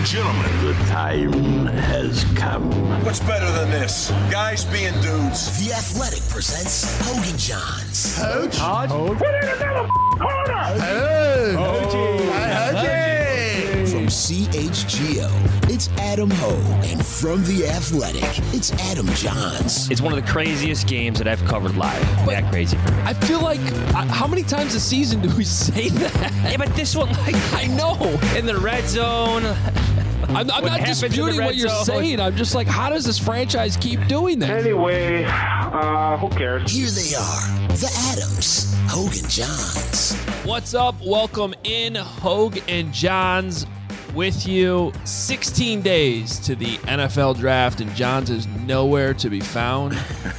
and gentlemen, the time has come. What's better than this? Guys being dudes. The Athletic presents Hogan Johns. Put in another corner! From CHGO, it's Adam Hogue. And from The Athletic, it's Adam Johns. It's one of the craziest games that I've covered live. That crazy for me. I feel like, how many times a season do we say that? Yeah, but this one, like, I know. in the red zone. I'm not disputing what you're saying. I'm just like, how does this franchise keep doing that? Anyway, who cares? Here they are, the Adams, Hogue and Johns. What's up? Welcome in, Hogue and Johns with you. 16 days to the NFL draft, and Johns is nowhere to be found.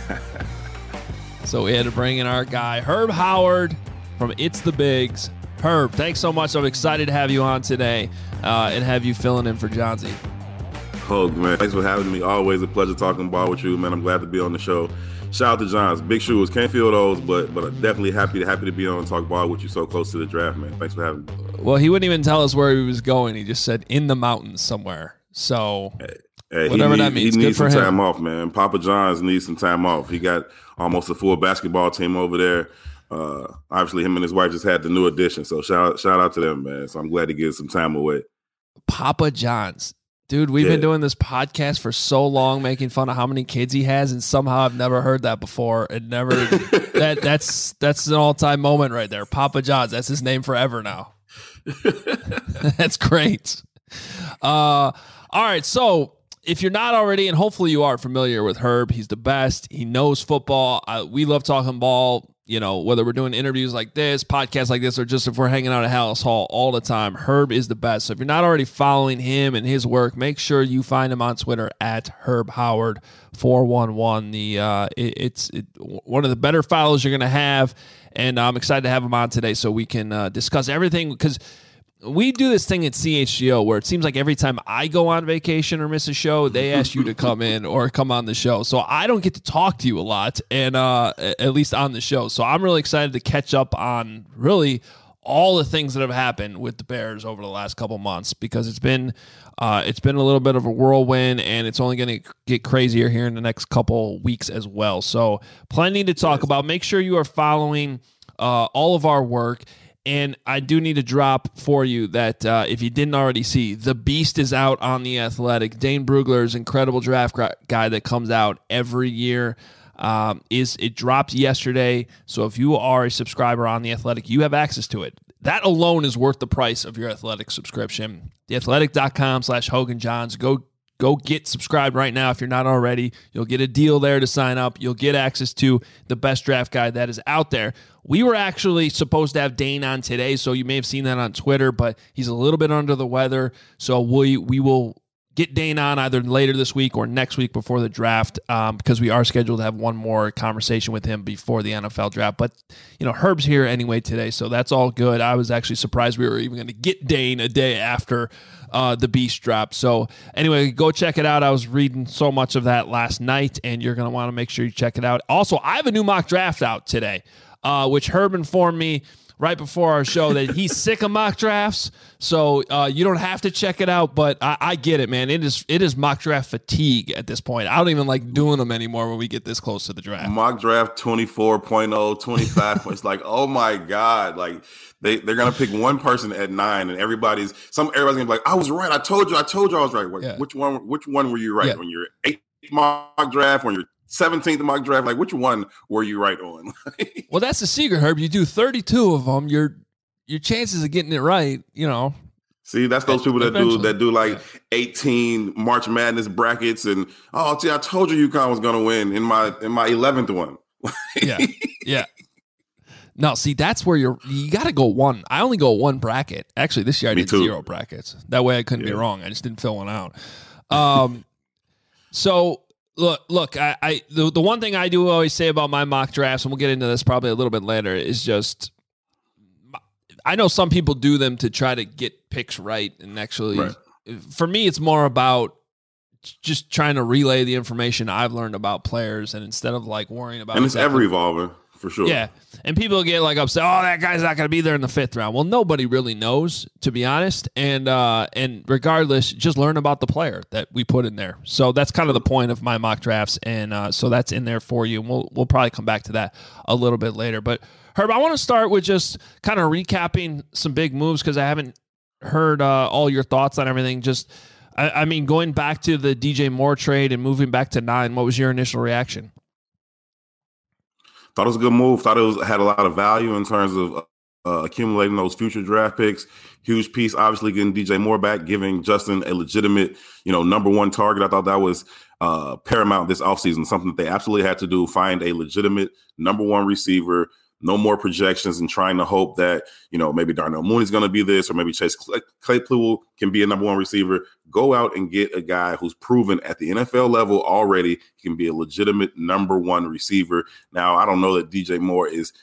So we had to bring in our guy, Herb Howard from It's the Bigs. Herb, thanks so much. I'm excited to have you on today and have you filling in for Johnsy. Hogue, man, thanks for having me. Always a pleasure talking ball with you, man. I'm glad to be on the show. Shout out to Johns. Big shoes. Can't feel those, but I'm definitely happy to be on and talk ball with you so close to the draft, man. Thanks for having me. Well, he wouldn't even tell us where he was going. He just said in the mountains somewhere. So whatever that means. He needs Good for some him. time off, man. Papa Johns needs some time off. He got almost a full basketball team over there. Obviously, him and his wife just had the new addition. So shout out to them, man. So I'm glad to get some time away. Papa Johns. Dude, we've been doing this podcast for so long, making fun of how many kids he has, and somehow I've never heard that before. And never that's an all-time moment right there. Papa Johns, that's his name forever now. That's great. All right, so if you're not already, and hopefully you are familiar with Herb, he's the best. He knows football. We love talking ball. You know, whether we're doing interviews like this, podcasts like this, or just if we're hanging out at Hallis Hall all the time, Herb is the best. So if you're not already following him and his work, make sure you find him on Twitter at Herb Howard 411. It's one of the better follows you're going to have, and I'm excited to have him on today so we can discuss everything, because we do this thing at CHGO where it seems like every time I go on vacation or miss a show, they ask you to come in or come on the show. So I don't get to talk to you a lot, and at least on the show. So I'm really excited to catch up on really all the things that have happened with the Bears over the last couple months, because it's been a little bit of a whirlwind, and it's only going to get crazier here in the next couple weeks as well. So plenty to talk about. Make sure you are following all of our work. And I do need to drop for you that if you didn't already see, The Beast is out on The Athletic. Dane Brugler's incredible draft guide that comes out every year. It dropped yesterday. So if you are a subscriber on The Athletic, you have access to it. That alone is worth the price of your Athletic subscription. TheAthletic.com/Hogan Johns. Go get subscribed right now if you're not already. You'll get a deal there to sign up. You'll get access to the best draft guide that is out there. We were actually supposed to have Dane on today, so you may have seen that on Twitter, but he's a little bit under the weather. So we will get Dane on either later this week or next week before the draft, because we are scheduled to have one more conversation with him before the NFL draft. But, you know, Herb's here anyway today, so that's all good. I was actually surprised we were even going to get Dane a day after the Beast drop. So anyway, go check it out. I was reading so much of that last night, and you're going to want to make sure you check it out. Also, I have a new mock draft out today, which Herb informed me right before our show that he's sick of mock drafts. So you don't have to check it out, but I get it, man. It is mock draft fatigue at this point. I don't even like doing them anymore when we get this close to the draft. Mock draft 24.0, 25. It's like, oh my God. Like they're going to pick one person at 9, and everybody's going to be like, I was right. I told you I was right. Like, which one were you right on your 8th mock draft, on your 17th mock draft? Like, which one were you right on? Well, that's the secret, Herb. You do 32 of them. Your chances of getting it right, you know. See, that's those people that do like 18 March Madness brackets, and I told you UConn was going to win in my 11th one. Yeah. No, see, that's where you got to go one. I only go one bracket. Actually, this year I did 0 brackets. That way I couldn't be wrong. I just didn't fill one out. So look, the one thing I do always say about my mock drafts, and we'll get into this probably a little bit later, is just I know some people do them to try to get picks right, and actually, for me, it's more about just trying to relay the information I've learned about players, and instead of like worrying about, and it's ever evolving. for sure. Yeah, and people get like upset. Oh, that guy's not going to be there in the 5th round. Well, nobody really knows, to be honest. And regardless, just learn about the player that we put in there. So that's kind of the point of my mock drafts, and so that's in there for you. And we'll probably come back to that a little bit later. But Herb, I want to start with just kind of recapping some big moves because I haven't heard all your thoughts on everything. Just, I mean, going back to the DJ Moore trade and moving back to 9, what was your initial reaction? Thought it was a good move. Thought it had a lot of value in terms of accumulating those future draft picks. Huge piece, obviously, getting DJ Moore back, giving Justin a legitimate, number 1 target. I thought that was paramount this offseason, something that they absolutely had to do, find a legitimate number 1 receiver. No more projections and trying to hope that, maybe Darnell Mooney's going to be this, or maybe Chase Claypool can be a number 1 receiver. Go out and get a guy who's proven at the NFL level already he can be a legitimate number 1 receiver. Now, I don't know that DJ Moore is,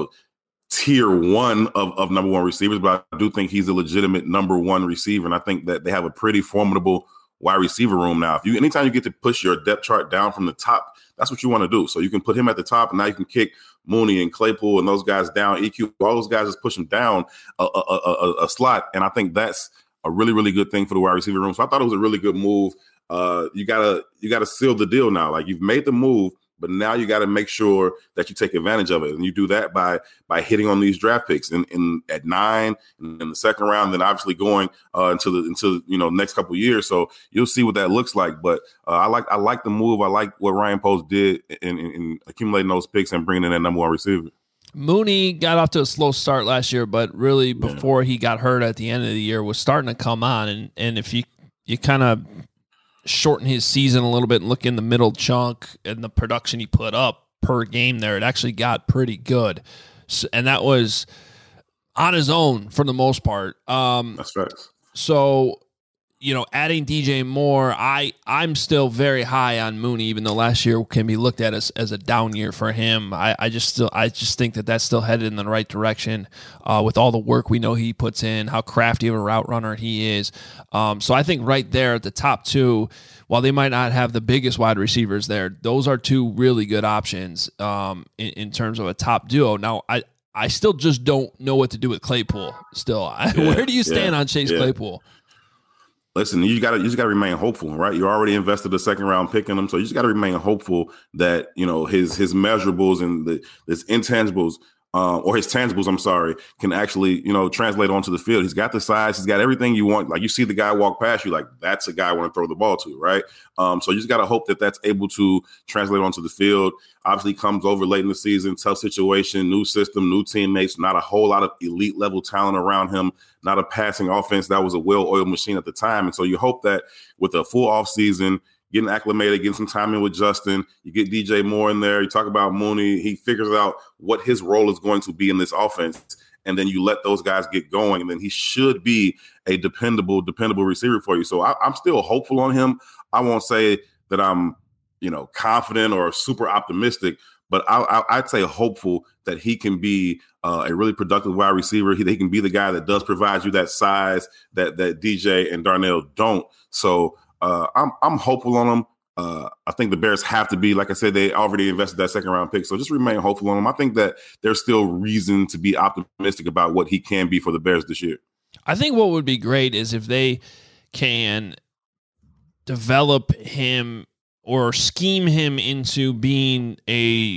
tier 1 of number 1 receivers, but I do think he's a legitimate number 1 receiver. And I think that they have a pretty formidable wide receiver room now. Anytime you get to push your depth chart down from the top, that's what you want to do. So you can put him at the top, and now you can kick Mooney and Claypool and those guys down. EQ, all those guys just push them down a slot, and I think that's a really, really good thing for the wide receiver room. So I thought it was a really good move. You gotta seal the deal now. Like, you've made the move, but now you got to make sure that you take advantage of it, and you do that by hitting on these draft picks in at 9 in the 2nd round, then obviously going into next couple of years. So you'll see what that looks like. But I like the move. I like what Ryan Post did in accumulating those picks and bringing in that number 1 receiver. Mooney got off to a slow start last year, but really before he got hurt at the end of the year was starting to come on. And if you kind of shorten his season a little bit and look in the middle chunk and the production he put up per game there, it actually got pretty good. So, and that was on his own for the most part. That's facts. So, adding DJ Moore, I'm still very high on Mooney, even though last year can be looked at as a down year for him. I just think that that's still headed in the right direction with all the work we know he puts in, how crafty of a route runner he is. So I think right there at the top 2, while they might not have the biggest wide receivers there, those are 2 really good options in terms of a top duo. Now, I still just don't know what to do with Claypool still. Where do you stand on Chase Claypool? Listen, you just gotta remain hopeful, right? You already invested a 2nd round pick in him, so you just gotta remain hopeful that his measurables and his intangibles or his tangibles, I'm sorry, can actually translate onto the field. He's got the size, he's got everything you want. Like, you see the guy walk past you, like, that's a guy I want to throw the ball to, right? So you just gotta hope that that's able to translate onto the field. Obviously, comes over late in the season, tough situation, new system, new teammates, not a whole lot of elite level talent around him, not a passing offense that was a well-oiled machine at the time. And so you hope that with a full offseason, getting acclimated, getting some time in with Justin, you get DJ Moore in there, you talk about Mooney, he figures out what his role is going to be in this offense, and then you let those guys get going, and then he should be a dependable receiver for you. So I'm still hopeful on him. I won't say that I'm confident or super optimistic, but I'd say hopeful that he can be a really productive wide receiver. He can be the guy that does provide you that size that DJ and Darnell don't. So I'm hopeful on him. I think the Bears have to be, like I said, they already invested that 2nd round pick. So just remain hopeful on him. I think that there's still reason to be optimistic about what he can be for the Bears this year. I think what would be great is if they can develop him or scheme him into being a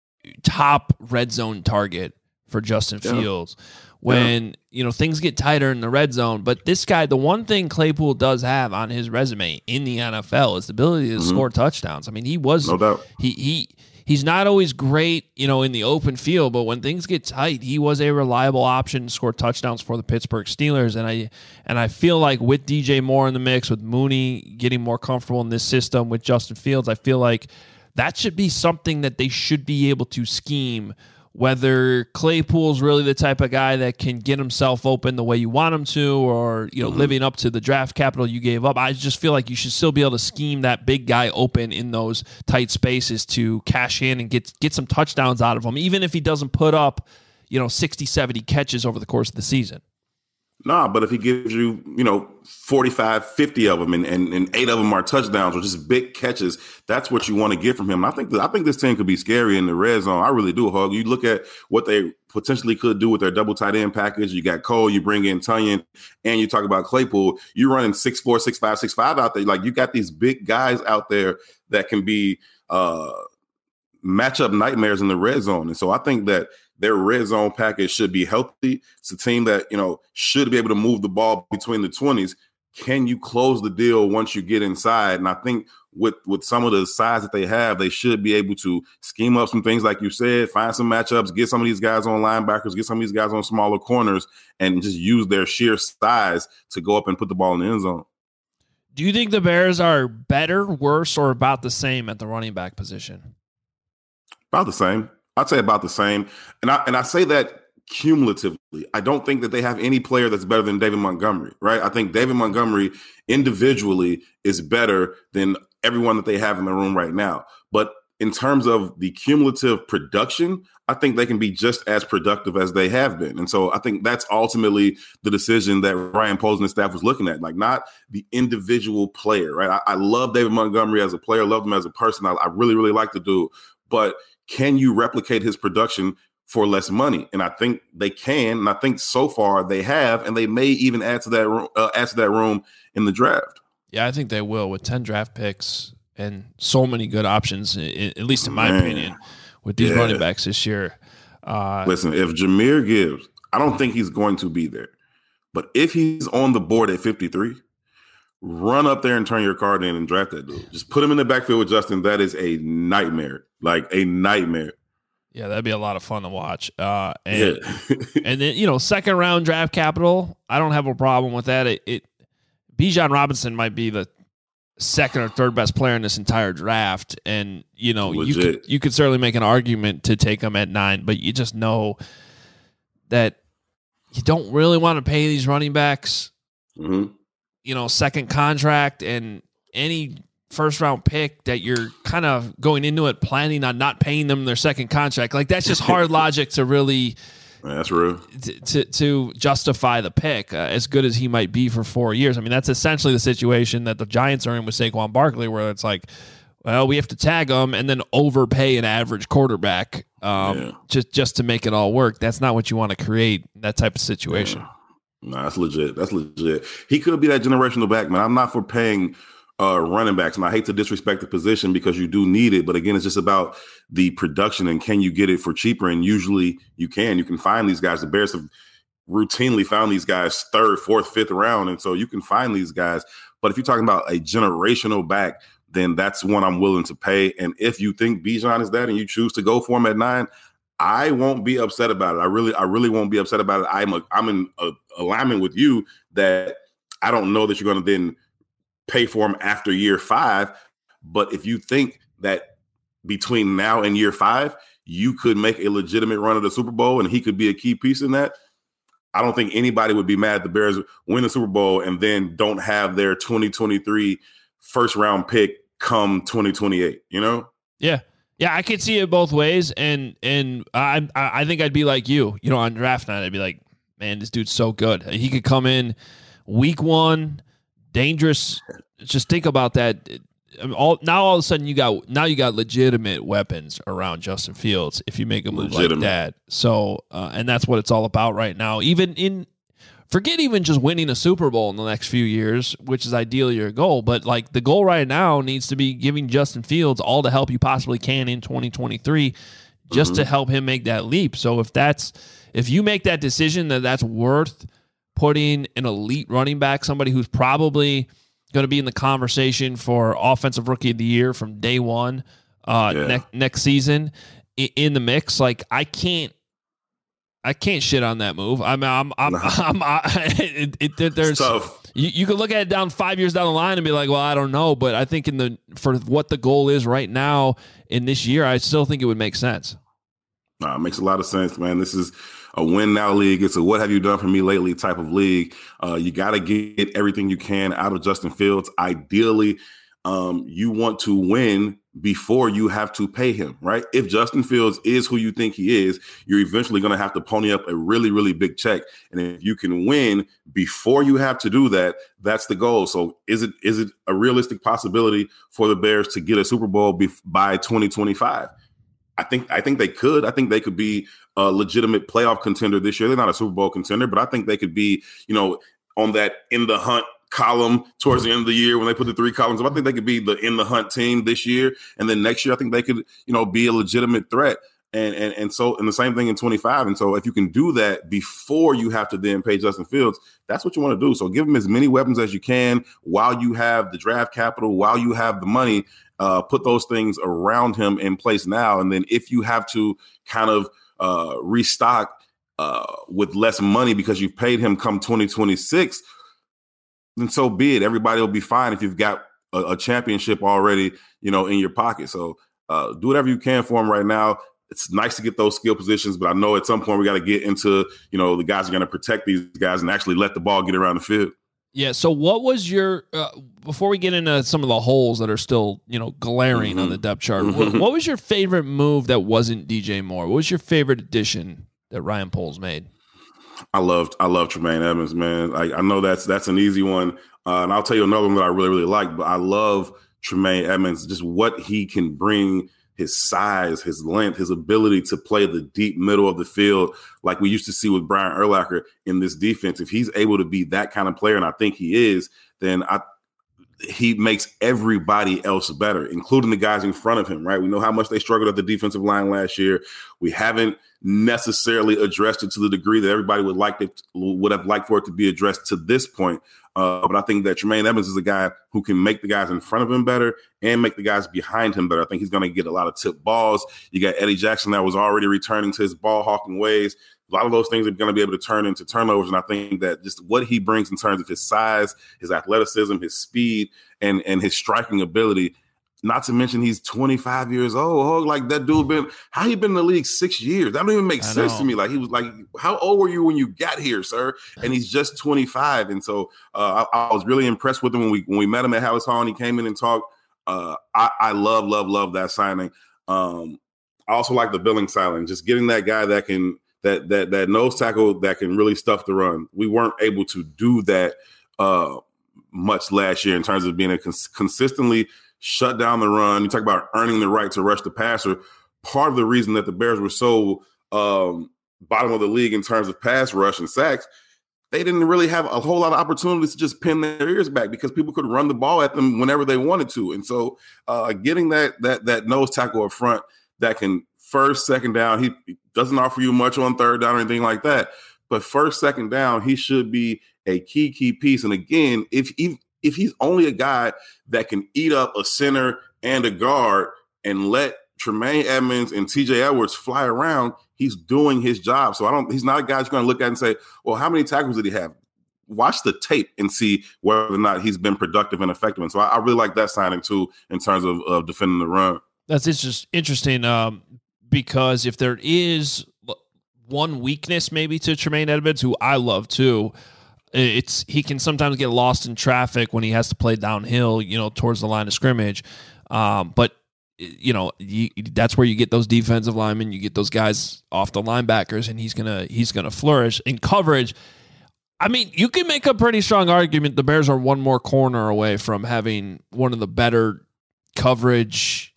top red zone target for Justin Fields when, things get tighter in the red zone. But this guy, the one thing Claypool does have on his resume in the NFL is the ability to score touchdowns. I mean, he was, no doubt. He's not always great, in the open field, but when things get tight, he was a reliable option to score touchdowns for the Pittsburgh Steelers. And I feel like with DJ Moore in the mix, with Mooney getting more comfortable in this system, with Justin Fields, I feel like that should be something that they should be able to scheme. Whether Claypool's really the type of guy that can get himself open the way you want him to, or living up to the draft capital you gave up, I just feel like you should still be able to scheme that big guy open in those tight spaces to cash in and get some touchdowns out of him, even if he doesn't put up 60, 70 catches over the course of the season. Nah, but if he gives you, 45, 50 of them and 8 of them are touchdowns or just big catches, that's what you want to get from him. And I think this team could be scary in the red zone. I really do, Hug. You look at what they potentially could do with their double tight end package. You got Cole, you bring in Tunyon, and you talk about Claypool. You're running 6'4", 6'5", 6'5" out there. Like, you got these big guys out there that can be matchup nightmares in the red zone. And so I think that their red zone package should be healthy. It's a team that, should be able to move the ball between the 20s. Can you close the deal once you get inside? And I think with some of the size that they have, they should be able to scheme up some things, like you said, find some matchups, get some of these guys on linebackers, get some of these guys on smaller corners, and just use their sheer size to go up and put the ball in the end zone. Do you think the Bears are better, worse, or about the same at the running back position? About the same. I'd say about the same. And I say that cumulatively. I don't think that they have any player that's better than David Montgomery, right? I think David Montgomery individually is better than everyone that they have in the room right now. But in terms of the cumulative production, I think they can be just as productive as they have been. And so I think that's ultimately the decision that Ryan Poles and his staff was looking at, like, not the individual player, right? I love David Montgomery as a player, love him as a person. I really, really like the dude. But can you replicate his production for less money? And I think they can. And I think so far they have, and they may even add to that room in the draft. Yeah, I think they will, with 10 draft picks and so many good options, at least in my opinion, with these running backs this year. Listen, if Jahmyr Gibbs, I don't think he's going to be there, but if he's on the board at 53, run up there and turn your card in and draft that dude. Just put him in the backfield with Justin. That is a nightmare, like a nightmare. Yeah, that'd be a lot of fun to watch. And then, second round draft capital, I don't have a problem with that. Bijan Robinson might be the second or third best player in this entire draft. And, you could certainly make an argument to take him at 9, but you just know that you don't really want to pay these running backs, second contract, and any first round pick that you're kind of going into it planning on not paying them their second contract. Like, that's just hard logic to really, that's real, to justify the pick, as good as he might be for 4 years. I mean, that's essentially the situation that the Giants are in with Saquon Barkley, where it's like, well, we have to tag him and then overpay an average quarterback just to make it all work. That's not what you want to create, that type of situation. Yeah. No, that's legit. That's legit. He could be that generational back, man. I'm not for paying running backs, and I hate to disrespect the position because you do need it. But again, it's just about the production and can you get it for cheaper? And usually you can. You can find these guys. The Bears have routinely found these guys 3rd, 4th, 5th round, and so you can find these guys. But if you're talking about a generational back, then that's one I'm willing to pay. And if you think Bijan is that and you choose to go for him at 9, I won't be upset about it. I really won't be upset about it. I'm in alignment with you that I don't know that you're going to then pay for him after year 5. But if you think that between now and year 5, you could make a legitimate run of the Super Bowl and he could be a key piece in that, I don't think anybody would be mad at the Bears win the Super Bowl and then don't have their 2023 first round pick come 2028, Yeah. Yeah, I could see it both ways, and I think I'd be like you. On draft night, I'd be like, man, this dude's so good. He could come in week 1, dangerous. Just think about that. All of a sudden, you got legitimate weapons around Justin Fields if you make a move like that. So, and that's what it's all about right now. Forget even just winning a Super Bowl in the next few years, which is ideally your goal. But like the goal right now needs to be giving Justin Fields all the help you possibly can in 2023 just to help him make that leap. So if you make that decision that's worth putting an elite running back, somebody who's probably going to be in the conversation for Offensive Rookie of the Year from day one next season in the mix, like I can't shit on that move. There's tough. You could look at it down 5 years down the line and be like, well, I don't know. But I think for what the goal is right now in this year, I still think it would make sense. It makes a lot of sense, man. This is a win now league. It's a what have you done for me lately type of league. You got to get everything you can out of Justin Fields. Ideally, you want to win before you have to pay him, right? If Justin Fields is who you think he is, you're eventually going to have to pony up a really, really big check. And if you can win before you have to do that, that's the goal. So is it a realistic possibility for the Bears to get a Super Bowl by 2025? I think they could. I think they could be a legitimate playoff contender this year. They're not a Super Bowl contender, but I think they could be, on that in the hunt column towards the end of the year when they put the 3 columns up. I think they could be the in the hunt team this year. And then next year, I think they could, be a legitimate threat. And so the same thing in 25. And so if you can do that before you have to then pay Justin Fields, that's what you want to do. So give him as many weapons as you can while you have the draft capital, while you have the money, put those things around him in place now. And then if you have to kind of restock with less money because you've paid him come 2026, then so be it. Everybody will be fine if you've got a championship already, in your pocket. So do whatever you can for him right now. It's nice to get those skill positions, but I know at some point we got to get into, the guys are going to protect these guys and actually let the ball get around the field. Yeah. So what was your before we get into some of the holes that are still, glaring on the depth chart, what was your favorite move that wasn't DJ Moore? What was your favorite addition that Ryan Poles made? I love Tremaine Edmonds, man. I know that's an easy one. And I'll tell you another one that I really, really like, but I love Tremaine Edmonds, just what he can bring, his size, his length, his ability to play the deep middle of the field like we used to see with Brian Urlacher in this defense. If he's able to be that kind of player, and I think he is, then he makes everybody else better, including the guys in front of him, right? We know how much they struggled at the defensive line last year. We haven't necessarily addressed it to the degree that everybody would have liked for it to be addressed to this point. But I think that Tremaine Edmonds is a guy who can make the guys in front of him better and make the guys behind him better. I think he's going to get a lot of tip balls. You got Eddie Jackson that was already returning to his ball hawking ways. A lot of those things are going to be able to turn into turnovers. And I think that just what he brings in terms of his size, his athleticism, his speed, and his striking ability, not to mention he's 25 years old. Like that dude how he been in the league 6 years? That don't even make sense to me. Like he was like, how old were you when you got here, sir? And he's just 25. And so I was really impressed with him when we met him at Hallis Hall and he came in and talked. I love that signing. I also like the Billings signing, just getting that guy that can, that nose tackle that can really stuff the run. We weren't able to do that much last year in terms of being a consistently shut down the run. You talk about earning the right to rush the passer. Part of the reason that the Bears were so bottom of the league in terms of pass rush and sacks, they didn't really have a whole lot of opportunities to just pin their ears back because people could run the ball at them whenever they wanted to. And so getting that nose tackle up front that can first, second down, he doesn't offer you much on third down or anything like that. But first, second down, he should be a key piece. And again, if he's only a guy that can eat up a center and a guard and let Tremaine Edmonds and TJ Edwards fly around, he's doing his job. So he's not a guy you're going to look at and say, well, how many tackles did he have? Watch the tape and see whether or not he's been productive and effective. And so I really like that signing too in terms of defending the run. That's just interesting because if there is one weakness maybe to Tremaine Edmonds, who I love too, he can sometimes get lost in traffic when he has to play downhill, towards the line of scrimmage. But that's where you get those defensive linemen, you get those guys off the linebackers, and he's gonna flourish in coverage. I mean, you can make a pretty strong argument the Bears are one more corner away from having one of the better coverage,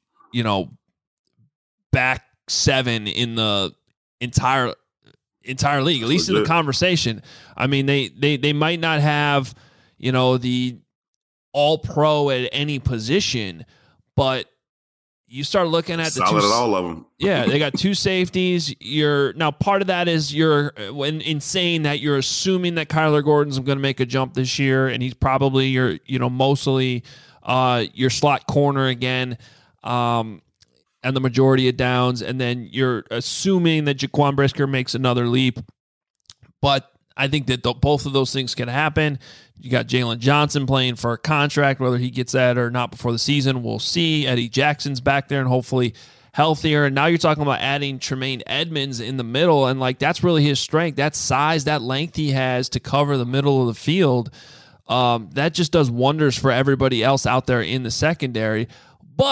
back seven in the entire league, at least in the conversation. I mean, they might not have, the all pro at any position, but you start looking at solid at all of them. Yeah, they got two safeties. Now part of that is in saying that you're assuming that Kyler Gordon's going to make a jump this year, and he's probably mostly your slot corner again, and the majority of downs, and then you're assuming that Jaquan Brisker makes another leap. But I think that both of those things can happen. You got Jalen Johnson playing for a contract, whether he gets that or not before the season, we'll see. Eddie Jackson's back there and hopefully healthier. And now you're talking about adding Tremaine Edmonds in the middle, and that's really his strength. That size, that length he has to cover the middle of the field, that just does wonders for everybody else out there in the secondary. But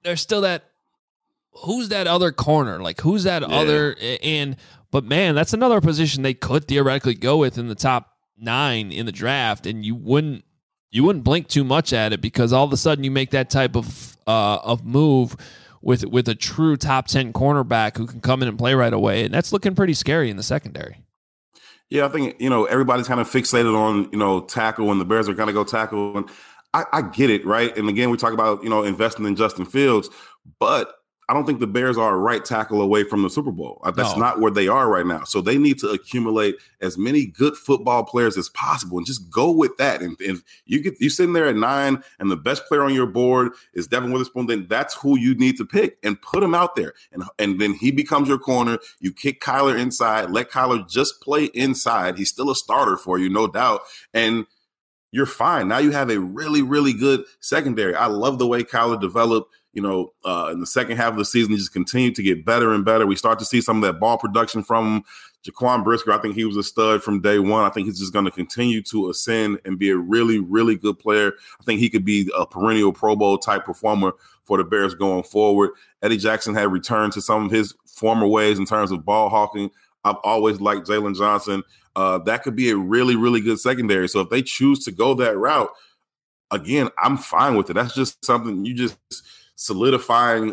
there's still that. Who's that other corner? Like, who's that other? But man, that's another position they could theoretically go with in the top 9 in the draft, and you wouldn't blink too much at it, because all of a sudden you make that type of move with a true top 10 cornerback who can come in and play right away, and that's looking pretty scary in the secondary. Yeah, I think, everybody's kind of fixated on, tackle, and the Bears are going to go tackle. And I get it, right? And again, we talk about, investing in Justin Fields, but I don't think the Bears are a right tackle away from the Super Bowl. That's not where they are right now. So they need to accumulate as many good football players as possible and just go with that. And if you're sitting there at 9 and the best player on your board is Devin Witherspoon, then that's who you need to pick and put him out there. And then he becomes your corner. You kick Kyler inside, let Kyler just play inside. He's still a starter for you, no doubt. And you're fine. Now you have a really, really good secondary. I love the way Kyler developed. In the second half of the season, he just continued to get better and better. We start to see some of that ball production from Jaquan Brisker. I think he was a stud from day one. I think he's just going to continue to ascend and be a really, really good player. I think he could be a perennial Pro Bowl type performer for the Bears going forward. Eddie Jackson had returned to some of his former ways in terms of ball hawking. I've always liked Jalen Johnson. That could be a really, really good secondary. So if they choose to go that route, again, I'm fine with it. That's just something you just solidifying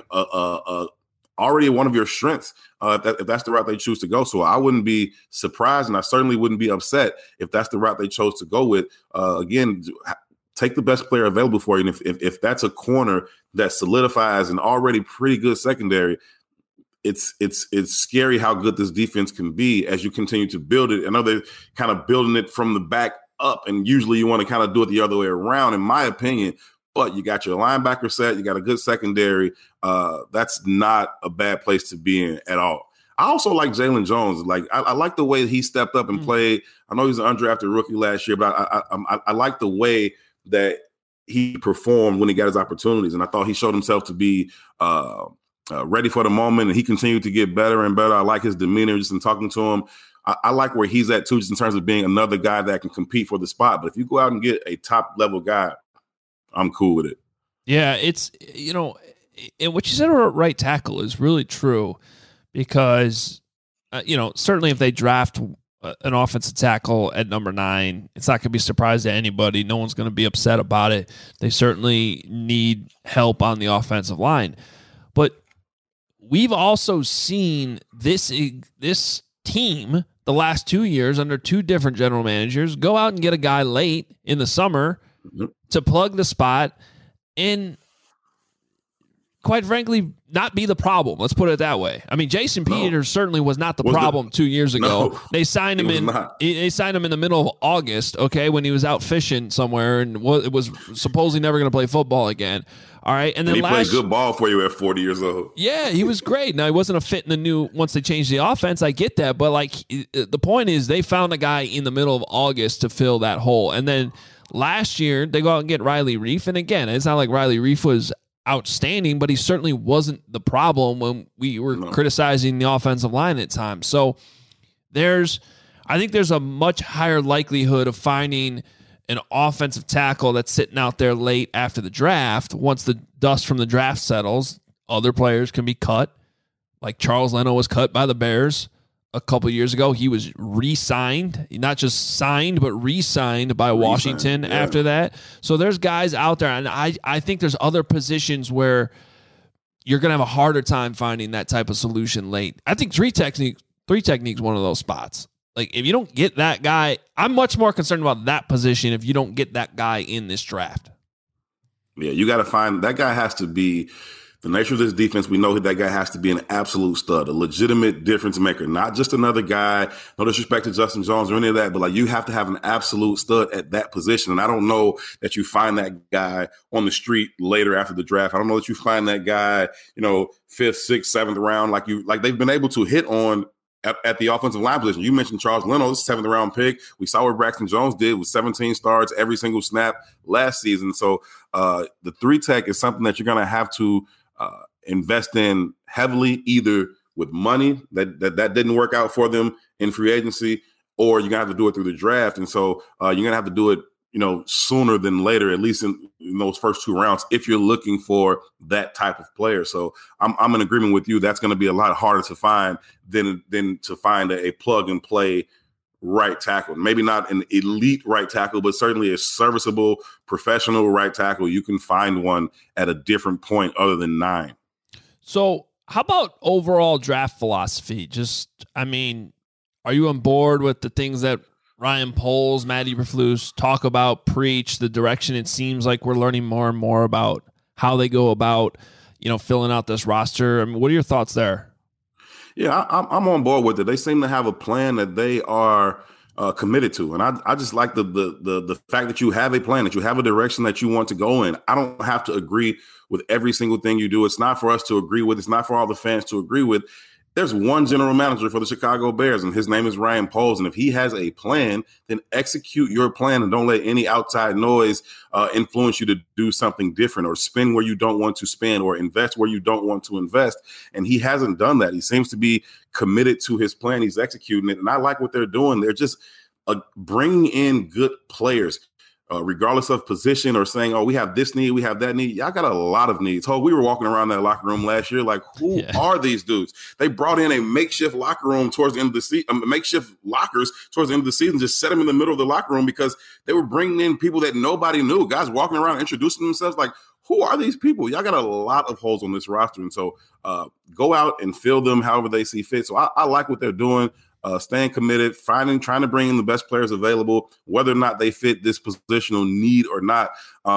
already one of your strengths if that's the route they choose to go. So I wouldn't be surprised, and I certainly wouldn't be upset if that's the route they chose to go with. Again, take the best player available for you. And if that's a corner that solidifies an already pretty good secondary, it's scary how good this defense can be as you continue to build it. I know they're kind of building it from the back up, and usually you want to kind of do it the other way around, in my opinion. But you got your linebacker set, you got a good secondary. That's not a bad place to be in at all. I also like Jalen Jones. Like I like the way he stepped up and played. I know he was an undrafted rookie last year, but I like the way that he performed when he got his opportunities. And I thought he showed himself to be ready for the moment, and he continued to get better and better. I like his demeanor just in talking to him. I like where he's at too, just in terms of being another guy that can compete for the spot. But if you go out and get a top level guy, I'm cool with it. Yeah, it's, and what you said about right tackle is really true, because, certainly if they draft an offensive tackle at number 9, it's not going to be a surprise to anybody. No one's going to be upset about it. They certainly need help on the offensive line. But we've also seen this team the last 2 years under 2 different general managers go out and get a guy late in the summer to plug the spot and, quite frankly, not be the problem. Let's put it that way. I mean, Jason Peters certainly was not the problem 2 years ago. No, they signed him in the middle of August, okay, when he was out fishing somewhere and was supposedly never going to play football again. All right, and then he played good ball for you at 40 years old. Yeah, he was great. Now, he wasn't a fit in the new once they changed the offense. I get that, but the point is they found a guy in the middle of August to fill that hole, and then last year they go out and get Riley Reiff, and again, it's not like Riley Reiff was outstanding, but he certainly wasn't the problem when we were criticizing the offensive line at times. So I think there's a much higher likelihood of finding an offensive tackle that's sitting out there late after the draft. Once the dust from the draft settles, other players can be cut. Like Charles Leno was cut by the Bears a couple of years ago. He was re-signed, not just signed, but re-signed by Washington after that. So there's guys out there, and I think there's other positions where you're going to have a harder time finding that type of solution late. I think three techniques one of those spots. Like, if you don't get that guy, I'm much more concerned about that position if you don't get that guy in this draft. Yeah, you got to find that guy. Has to be the nature of this defense. We know that guy has to be an absolute stud, a legitimate difference maker, not just another guy. No disrespect to Justin Jones or any of that, but you have to have an absolute stud at that position. And I don't know that you find that guy on the street later after the draft. I don't know that you find that guy, 5th, 6th, 7th round, like they've been able to hit on at the offensive line position. You mentioned Charles Leno, 7th round pick. We saw what Braxton Jones did with 17 starts every single snap last season. So the 3-tech is something that you're going to have to invest in heavily, either with money that didn't work out for them in free agency, or you're going to have to do it through the draft. And so you're going to have to do it sooner than later, at least in those first 2 rounds, if you're looking for that type of player. So I'm in agreement with you. That's going to be a lot harder to find than to find a plug and play right tackle. Maybe not an elite right tackle, but certainly a serviceable professional right tackle. You can find one at a different point other than 9. So how about overall draft philosophy? Are you on board with the things that Ryan Poles, Matt Eberflus talk about, preach, the direction it seems like we're learning more and more about how they go about, filling out this roster? I mean, what are your thoughts there? Yeah, I'm on board with it. They seem to have a plan that they are committed to. And I just like the fact that you have a plan, that you have a direction that you want to go in. I don't have to agree with every single thing you do. It's not for us to agree with. It's not for all the fans to agree with. There's one general manager for the Chicago Bears, and his name is Ryan Poles. And if he has a plan, then execute your plan and don't let any outside noise influence you to do something different or spend where you don't want to spend or invest where you don't want to invest. And he hasn't done that. He seems to be committed to his plan. He's executing it. And I like what they're doing. They're just bringing in good players. Regardless of position or saying, oh, we have this need, we have that need. Y'all got a lot of needs. We were walking around that locker room last year like, who are these dudes? They brought in a makeshift locker room towards the end of the season, makeshift lockers towards the end of the season, just set them in the middle of the locker room because they were bringing in people that nobody knew. Guys walking around introducing themselves like, who are these people? Y'all got a lot of holes on this roster. And so go out and fill them however they see fit. So I like what they're doing. Staying committed, trying to bring in the best players available, whether or not they fit this positional need or not.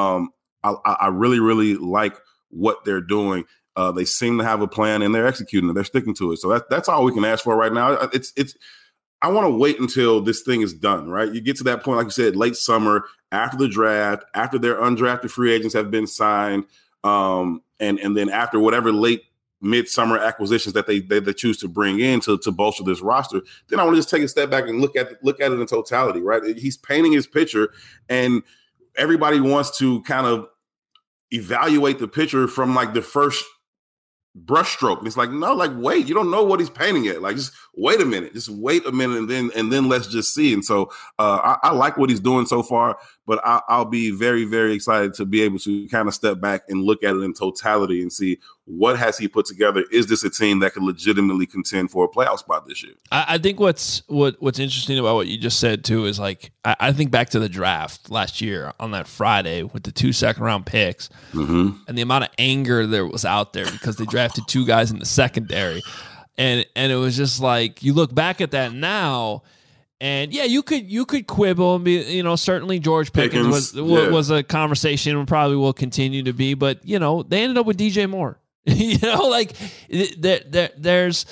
I really, really like what they're doing. They seem to have a plan and they're executing it. They're sticking to it. So that's all we can ask for right now. I want to wait until this thing is done, right? You get to that point, like you said, late summer, after the draft, after their undrafted free agents have been signed, and then after whatever late midsummer acquisitions that they choose to bring in to bolster this roster, then I want to just take a step back and look at it in totality, right? He's painting his picture, and everybody wants to kind of evaluate the picture from like the first brushstroke. And it's like, no, like, wait, you don't know what he's painting yet. Like, just wait a minute, and then let's just see. And so I like what he's doing so far, but I'll be very, very excited to be able to kind of step back and look at it in totality and see what has he put together. Is this a team that could legitimately contend for a playoff spot this year? I think what's interesting about what you just said too is like I think back to the draft last year on that Friday with the 2 second-round picks and the amount of anger there was out there because they drafted 2 guys in the secondary, and it was just like you look back at that now. And yeah, you could quibble and be, certainly George Pickens was a conversation and probably will continue to be, but they ended up with DJ Moore. There's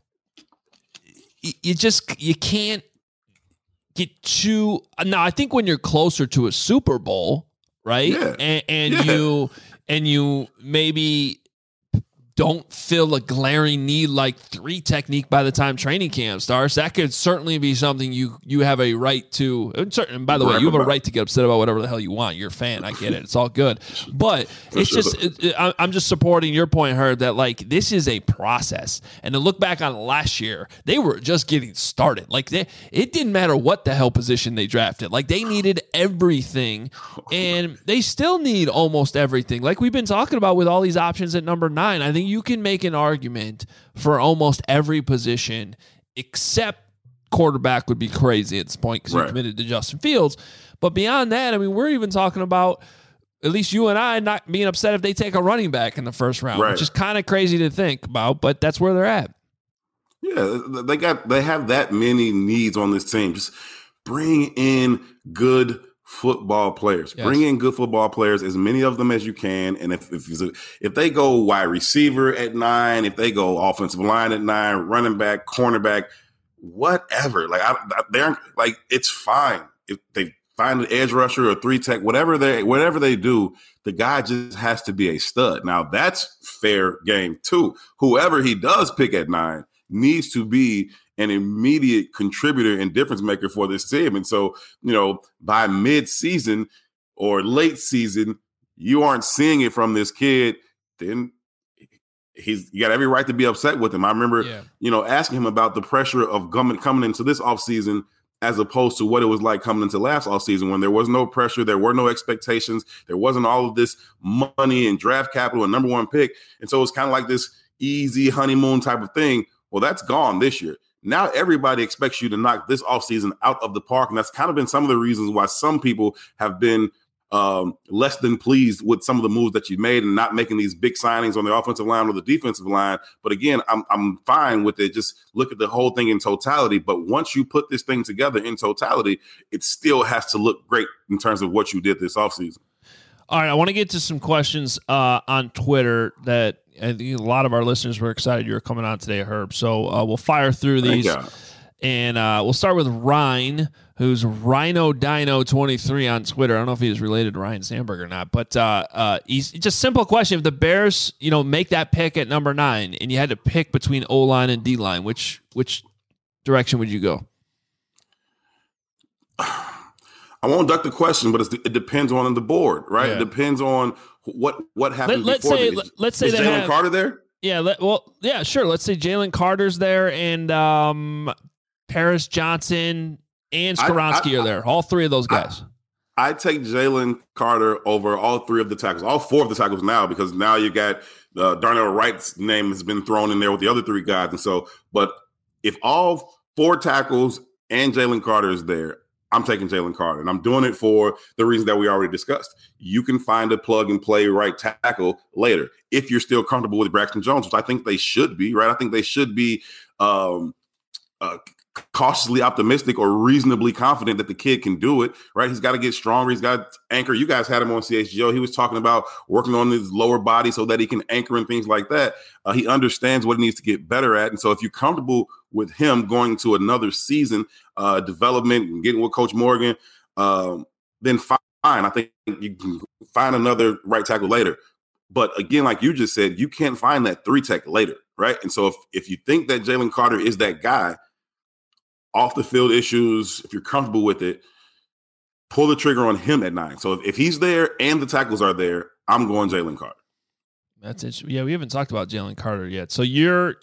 you can't get too. Now, I think when you're closer to a Super Bowl, right? Yeah. And you maybe don't feel a glaring need like 3 technique by the time training camp starts. That could certainly be something you have a right to. And by the way, you have a right to get upset about whatever the hell you want. You're a fan. I get it. It's all good. But I'm just supporting your point, Herb, that like this is a process. And to look back on last year, they were just getting started. Like it didn't matter what the hell position they drafted. Like they needed everything, and they still need almost everything. Like we've been talking about with all these options at number 9. I think you can make an argument for almost every position except quarterback would be crazy at this point because you're committed to Justin Fields. But beyond that, I mean, we're even talking about, at least you and I, not being upset if they take a running back in the first round, which is kind of crazy to think about, but that's where they're at. Yeah, they have that many needs on this team. Just bring in good football players. Yes. Bring in good football players, as many of them as you can. And if they go wide receiver at 9, if they go offensive line at 9, running back, cornerback, whatever, they're like, it's fine. If they find an edge rusher or 3 tech, whatever they do, the guy just has to be a stud. Now that's fair game too. Whoever he does pick at 9 needs to be an immediate contributor and difference maker for this team. And so, by mid-season or late season, you aren't seeing it from this kid, then you got every right to be upset with him. I remember, asking him about the pressure of coming into this offseason as opposed to what it was like coming into last offseason when there was no pressure, there were no expectations, there wasn't all of this money and draft capital and number one pick. And so it's kind of like this easy honeymoon type of thing. Well, that's gone this year. Now everybody expects you to knock this offseason out of the park. And that's kind of been some of the reasons why some people have been less than pleased with some of the moves that you made and not making these big signings on the offensive line or the defensive line. But again, I'm fine with it. Just look at the whole thing in totality. But once you put this thing together in totality, it still has to look great in terms of what you did this offseason. All right, I want to get to some questions on Twitter that I think a lot of our listeners were excited you were coming on today, Herb. So we'll fire through these. And we'll start with Ryan, who's Rhino Dino 23 on Twitter. I don't know if he's related to Ryan Sandberg or not, but he's just simple question. If the Bears, make that pick at number 9 and you had to pick between O-line and D-line, which direction would you go? I won't duck the question, but it depends on the board, right? Yeah. It depends on what happened before. Let's say is Jalen Carter there? Yeah, sure. Let's say Jalen Carter's there and Paris Johnson and Skoronski are there. All three of those guys. I take Jalen Carter over all three of the tackles, all four of the tackles now, because now you got Darnell Wright's name has been thrown in there with the other three guys. And so, but if all 4 tackles and Jalen Carter is there, I'm taking Jalen Carter, and I'm doing it for the reasons that we already discussed. You can find a plug-and-play right tackle later if you're still comfortable with Braxton Jones, which I think they should be, right? I think they should be cautiously optimistic or reasonably confident that the kid can do it, right? He's got to get stronger. He's got to anchor. You guys had him on CHGO. He was talking about working on his lower body so that he can anchor and things like that. He understands what he needs to get better at. And so if you're comfortable with him going to another season, development and getting with Coach Morgan, then fine. I think you can find another right tackle later. But again, like you just said, you can't find that 3 tech later, right? And so if you think that Jalen Carter is that guy, off the field issues, if you're comfortable with it, pull the trigger on him at 9. So if he's there and the tackles are there, I'm going Jalen Carter. That's interesting. Yeah, we haven't talked about Jalen Carter yet. So you're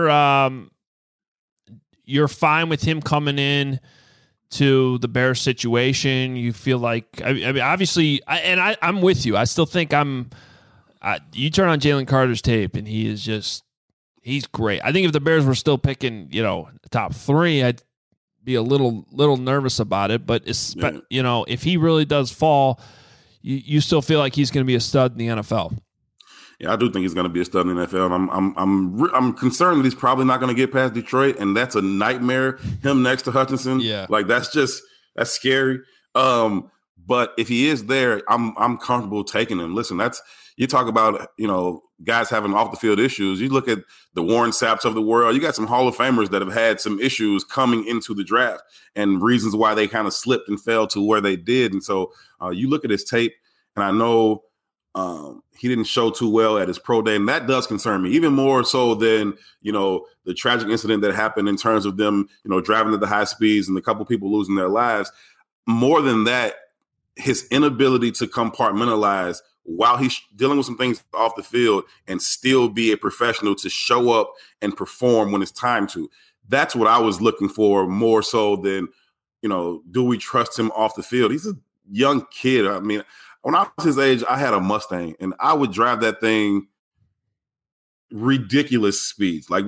fine with him coming in to the Bears situation. You feel like, I mean, obviously, I'm with you. I still think you turn on Jalen Carter's tape and he's great. I think if the Bears were still picking, top 3, I'd be a little nervous about it. But if he really does fall, you still feel like he's going to be a stud in the NFL. Yeah, I do think he's going to be a stud in the NFL. And I'm concerned that he's probably not going to get past Detroit, and that's a nightmare. Him next to Hutchinson, that's scary. But if he is there, I'm comfortable taking him. Listen, you talk about guys having off the field issues. You look at the Warren Sapps of the world. You got some Hall of Famers that have had some issues coming into the draft and reasons why they kind of slipped and fell to where they did. And so you look at his tape, and I know he didn't show too well at his pro day, and that does concern me even more so than the tragic incident that happened in terms of them driving at the high speeds and a couple people losing their lives. More than that, his inability to compartmentalize while he's dealing with some things off the field and still be a professional to show up and perform when it's time to. That's what I was looking for more so than, do we trust him off the field? He's a young kid. I mean, when I was his age, I had a Mustang and I would drive that thing ridiculous speeds. It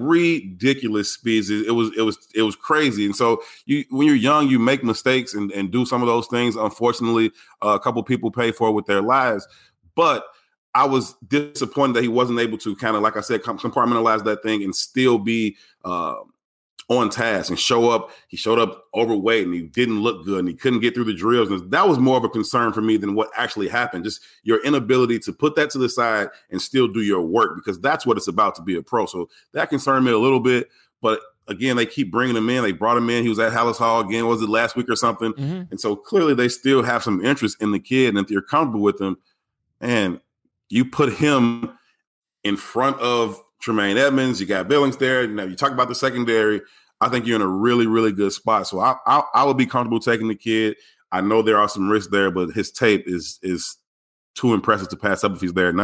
was crazy. And so when you're young, you make mistakes and do some of those things. Unfortunately, a couple people pay for it with their lives. But I was disappointed that he wasn't able to kind of, like I said, compartmentalize that thing and still be on task and show up. He showed up overweight and he didn't look good and he couldn't get through the drills. And that was more of a concern for me than what actually happened. Just your inability to put that to the side and still do your work, because that's what it's about to be a pro. So that concerned me a little bit. But again, they keep bringing him in. They brought him in. He was at Hallis Hall again. Was it last week or something? Mm-hmm. And so clearly they still have some interest in the kid. And if you're comfortable with him, and you put him in front of Tremaine Edmonds, you got Billings there. Now you talk about the secondary. I think you're in a really, really good spot. So I would be comfortable taking the kid. I know there are some risks there, but his tape is too impressive to pass up if he's there at 9.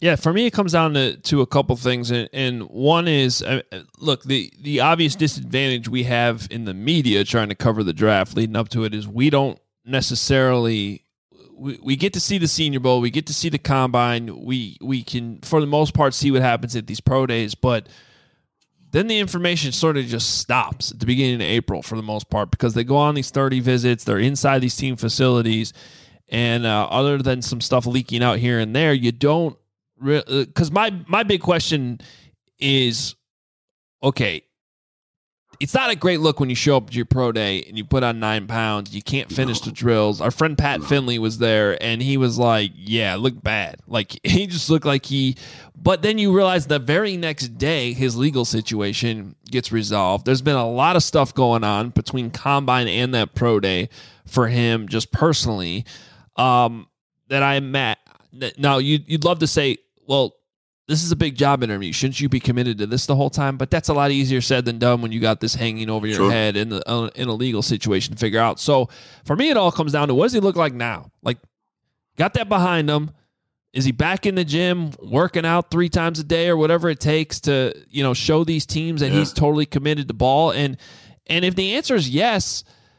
Yeah, for me, it comes down to a couple things, and one is, look, the obvious disadvantage we have in the media trying to cover the draft leading up to it is we don't necessarily we get to see the Senior Bowl, we get to see the Combine, we can for the most part see what happens at these pro days, but then the information sort of just stops at the beginning of April for the most part because they go on these 30 visits, they're inside these team facilities, and other than some stuff leaking out here and there, you don't. Because my big question is, okay, it's not a great look when you show up to your pro day and you put on 9 pounds. You can't finish the drills. Our friend Pat Finley was there, and he was like, yeah, it looked bad. Like, he just looked like but then you realize the very next day, his legal situation gets resolved. There's been a lot of stuff going on between Combine and that pro day for him just personally that I'm at. Now, you'd love to say, well, this is a big job interview. Shouldn't you be committed to this the whole time? But that's a lot easier said than done when you got this hanging over your head in a legal situation to figure out. So for me, it all comes down to what does he look like now? Like, got that behind him. Is he back in the gym working out 3 times a day or whatever it takes to, show these teams that he's totally committed to ball? And if the answer is yes,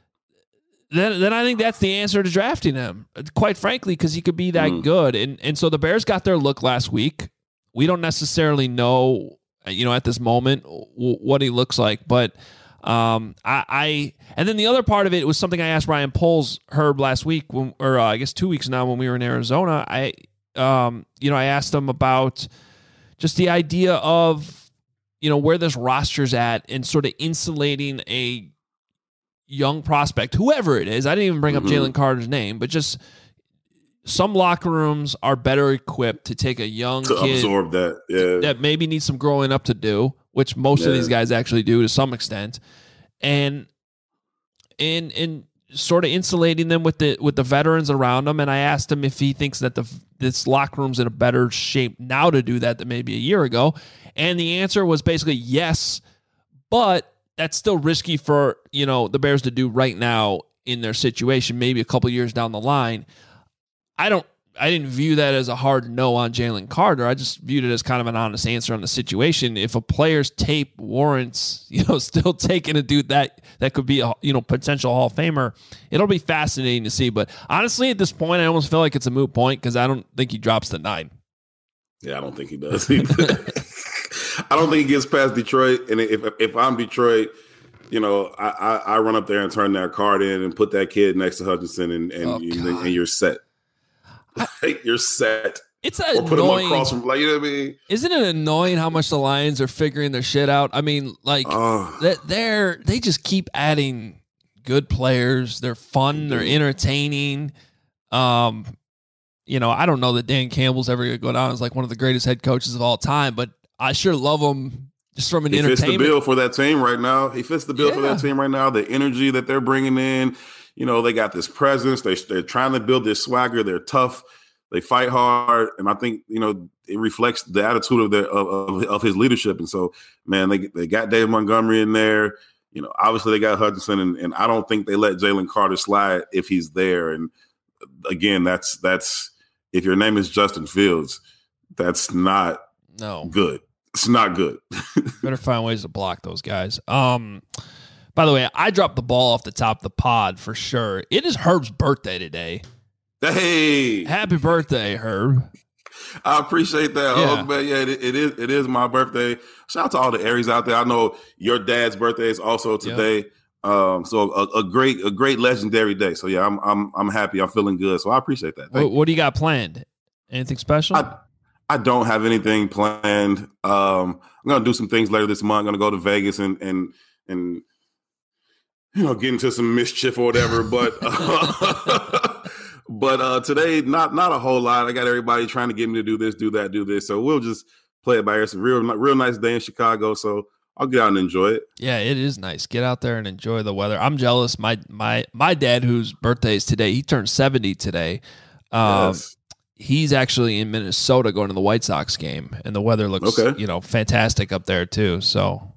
then I think that's the answer to drafting him, quite frankly, because he could be that good. And so the Bears got their look last week. We don't necessarily know, at this moment what he looks like. But and then the other part of it was something I asked Ryan Poles, Herb, last week, I guess 2 weeks now when we were in Arizona. I asked him about just the idea of, where this roster's at and sort of insulating a young prospect, whoever it is. I didn't even bring up Jalen Carter's name, but just some locker rooms are better equipped to take a young kid absorb that maybe needs some growing up to do, which most of these guys actually do to some extent, and sort of insulating them with the veterans around them. And I asked him if he thinks that this locker room's in a better shape now to do that than maybe a year ago, and the answer was basically yes, but that's still risky for, the Bears to do right now in their situation, maybe a couple years down the line. I didn't view that as a hard no on Jalen Carter. I just viewed it as kind of an honest answer on the situation. If a player's tape warrants, still taking a dude that could be a, potential Hall of Famer, it'll be fascinating to see. But honestly, at this point, I almost feel like it's a moot point because I don't think he drops the 9. Yeah, I don't think he does either. I don't think he gets past Detroit. And if I'm Detroit, I run up there and turn that card in and put that kid next to Hutchinson and you're set. You're set. It's or put him across from, you know what I mean? Isn't it annoying how much the Lions are figuring their shit out? I mean, they just keep adding good players. They're fun. They're entertaining. I don't know that Dan Campbell's ever going to go down as like one of the greatest head coaches of all time, but I sure love him just from an entertainment. He fits the bill for that team right now. The energy that they're bringing in. They got this presence. They're trying to build this swagger. They're tough. They fight hard, and I think it reflects the attitude of his leadership. And so, man, they got Dave Montgomery in there. Obviously they got Hutchinson, and I don't think they let Jalen Carter slide if he's there. And again, that's if your name is Justin Fields, that's not good. It's not good. Better find ways to block those guys. By the way, I dropped the ball off the top of the pod for sure. It is Herb's birthday today. Hey, happy birthday, Herb! I appreciate that. Yeah. Oh, man, yeah, it is my birthday. Shout out to all the Aries out there. I know your dad's birthday is also today. Yep. So a great legendary day. So yeah, I'm happy. I'm feeling good. So I appreciate that. What do you got planned? Anything special? I don't have anything planned. I'm gonna do some things later this month. I'm gonna go to Vegas and get into some mischief or whatever. But today, not a whole lot. I got everybody trying to get me to do this, do that, do this. So we'll just play it by ear. It's a real nice day in Chicago. So I'll get out and enjoy it. Yeah, it is nice. Get out there and enjoy the weather. I'm jealous. My dad, whose birthday is today, he turned 70 today. Yes. He's actually in Minnesota going to the White Sox game, and the weather looks fantastic up there too. So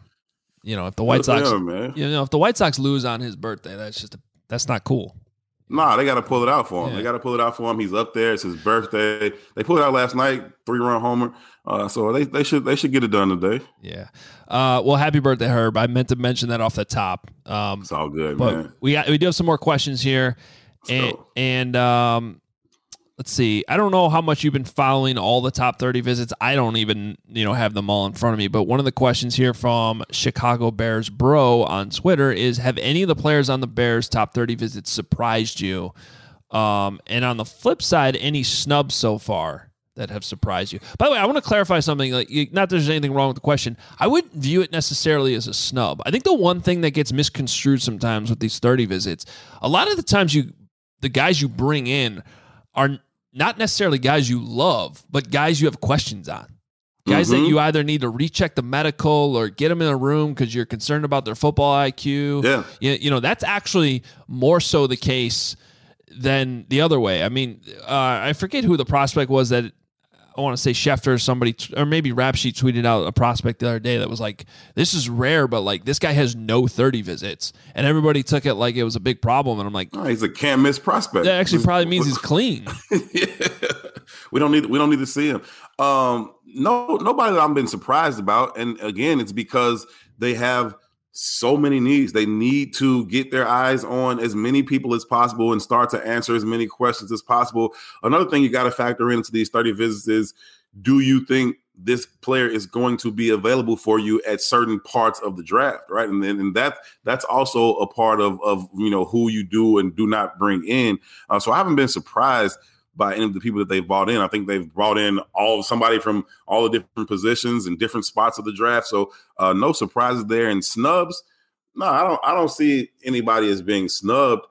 if the White Sox if the White Sox lose on his birthday, that's not cool. Nah, they got to pull it out for him. They got to pull it out for him. He's up there. It's his birthday. They pulled it out last night, 3-run homer. So they should get it done today. Yeah. Well, happy birthday, Herb. I meant to mention that off the top. It's all good, but man. We do have some more questions here, and let's see. I don't know how much you've been following all the top 30 visits. I don't even have them all in front of me. But one of the questions here from Chicago Bears Bro on Twitter is: have any of the players on the Bears top 30 visits surprised you? And on the flip side, any snubs so far that have surprised you? By the way, I want to clarify something. Not that there's anything wrong with the question. I wouldn't view it necessarily as a snub. I think the one thing that gets misconstrued sometimes with these 30 visits, a lot of the times the guys you bring in are not necessarily guys you love, but guys you have questions on. Guys that you either need to recheck the medical or get them in a room because you're concerned about their football IQ. Yeah. That's actually more so the case than the other way. I mean, I forget who the prospect was that I want to say Schefter or somebody, or maybe Rap Sheet tweeted out a prospect the other day that was like, this is rare, but like this guy has no 30 visits. And everybody took it like it was a big problem. And I'm like, oh, he's a can't miss prospect. That actually probably means he's clean. Yeah. We don't need to see him. Nobody that I've been surprised about. And again, it's because they have so many needs. They need to get their eyes on as many people as possible and start to answer as many questions as possible. Another thing you got to factor into these 30 visits is, do you think this player is going to be available for you at certain parts of the draft, right? And that's also a part of who you do and do not bring in. So I haven't been surprised by any of the people that they've brought in. I think they've brought in somebody from all the different positions and different spots of the draft. So no surprises there. And snubs, no, I don't see anybody as being snubbed.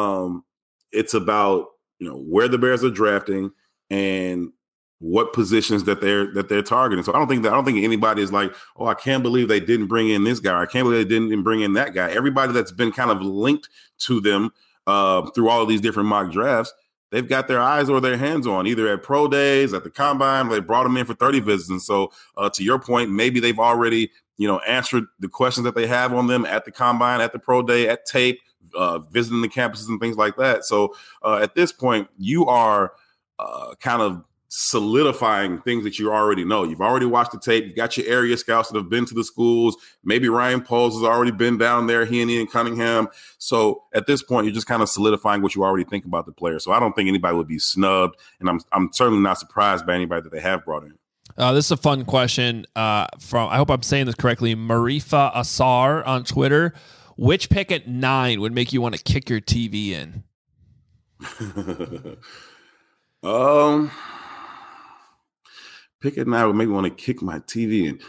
It's about where the Bears are drafting and what positions that they're targeting. So I don't think anybody is like, oh, I can't believe they didn't bring in this guy. Or I can't believe they didn't bring in that guy. Everybody that's been kind of linked to them through all of these different mock drafts, they've got their eyes or their hands on, either at pro days, at the combine. They brought them in for 30 visits. And so to your point, maybe they've already, answered the questions that they have on them at the combine, at the pro day, at tape, visiting the campuses and things like that. So at this point, you are kind of solidifying things that you already know. You've already watched the tape. You've got your area scouts that have been to the schools. Maybe Ryan Poles has already been down there, he and Ian Cunningham. So at this point, you're just kind of solidifying what you already think about the player. So I don't think anybody would be snubbed, and I'm certainly not surprised by anybody that they have brought in. This is a fun question from, I hope I'm saying this correctly, Marifa Asar on Twitter. Which pick at 9 would make you want to kick your TV in? Pick at 9 would make me want to kick my TV in.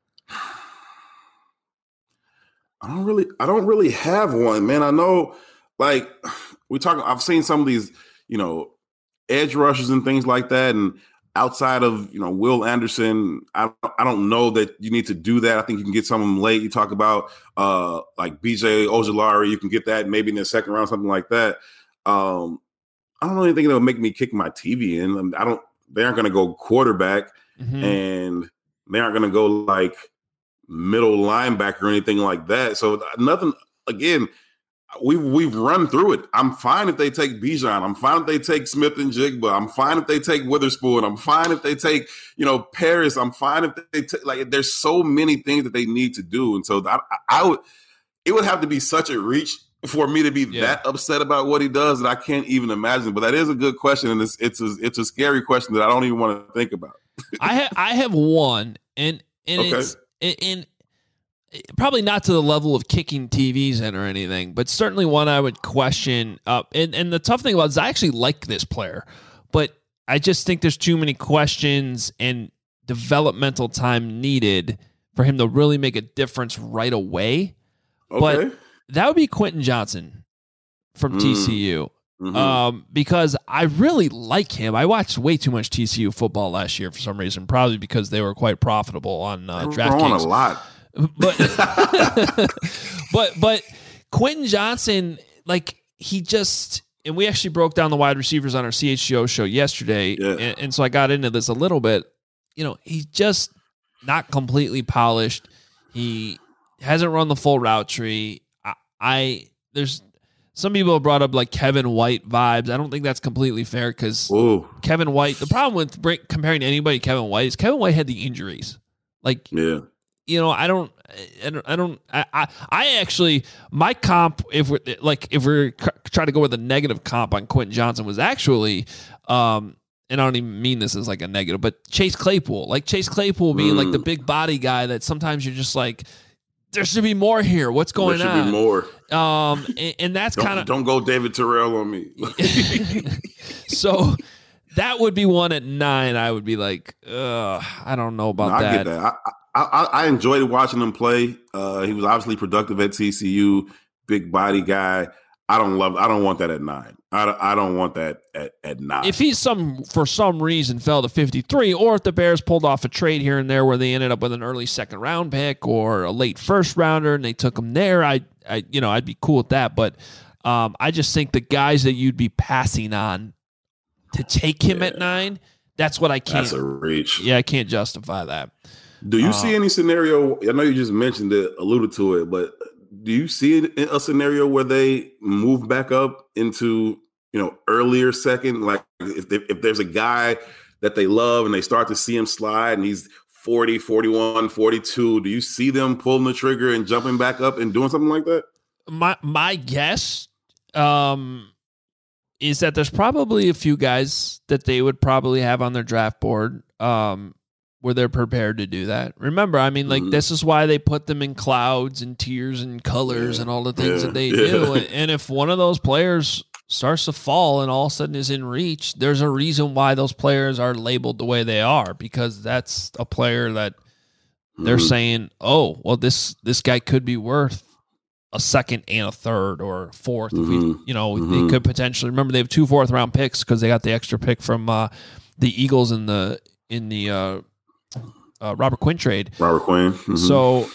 I don't really have one, man. I know, like, I've seen some of these, edge rushers and things like that. And outside of, Will Anderson, I don't know that you need to do that. I think you can get some of them late. You talk about like BJ Ojulari, you can get that maybe in the second round, something like that. I don't know anything that would make me kick my TV in. They aren't going to go quarterback. Mm-hmm. And they aren't going to go like middle linebacker or anything like that. So nothing, again, we've run through it. I'm fine if they take Bijan. I'm fine if they take Smith and Jigba. I'm fine if they take Witherspoon. I'm fine if they take, Paris. I'm fine if they take, there's so many things that they need to do. And so it would have to be such a reach for me to be that upset about what he does that I can't even imagine. But that is a good question. And it's a scary question that I don't even want to think about. I have one, and okay. It's in probably not to the level of kicking TVs in or anything, but certainly one I would question. And the tough thing about it is I actually like this player, but I just think there's too many questions and developmental time needed for him to really make a difference right away. Okay. But that would be Quentin Johnson from TCU. Mm-hmm. Because I really like him. I watched way too much TCU football last year for some reason, probably because they were quite profitable on DraftKings. A lot, but Quentin Johnson, like he just, and we actually broke down the wide receivers on our CHGO show yesterday, and so I got into this a little bit. He's just not completely polished. He hasn't run the full route tree. There's Some people have brought up like Kevin White vibes. I don't think that's completely fair because Kevin White, the problem with comparing anybody to Kevin White is Kevin White had the injuries. Like, I actually, my comp, if we're trying to go with a negative comp on Quentin Johnson was actually, and I don't even mean this as like a negative, but Chase Claypool, being like the big body guy that sometimes you're just like, there should be more here. What's going on? There should be more. And that's kind of... Don't go David Terrell on me. So that would be one at 9. I would be like, I don't know about that. I get that. I enjoyed watching him play. He was obviously productive at TCU, big body guy. I don't want that at 9. I don't want that at 9. If he's for some reason fell to 53, or if the Bears pulled off a trade here and there where they ended up with an early second round pick or a late first rounder and they took him there, I'd be cool with that. But I just think the guys that you'd be passing on to take him at 9, that's what I can't. That's a reach. Yeah, I can't justify that. Do you see any scenario? I know you just mentioned it, alluded to it, but do you see a scenario where they move back up into, earlier second? Like if there's a guy that they love and they start to see him slide and he's 40, 41, 42, do you see them pulling the trigger and jumping back up and doing something like that? My guess is that there's probably a few guys that they would probably have on their draft board where they're prepared to do that. Remember, I mean, this is why they put them in clouds and tiers and colors and all the things that they do. And if one of those players starts to fall and all of a sudden is in reach, there's a reason why those players are labeled the way they are, because that's a player that they're saying, oh, well, this guy could be worth a second and a third or a fourth. They could potentially, remember they have 2 fourth-round picks because they got the extra pick from the Eagles in the Robert Quinn trade. Robert Quinn. So,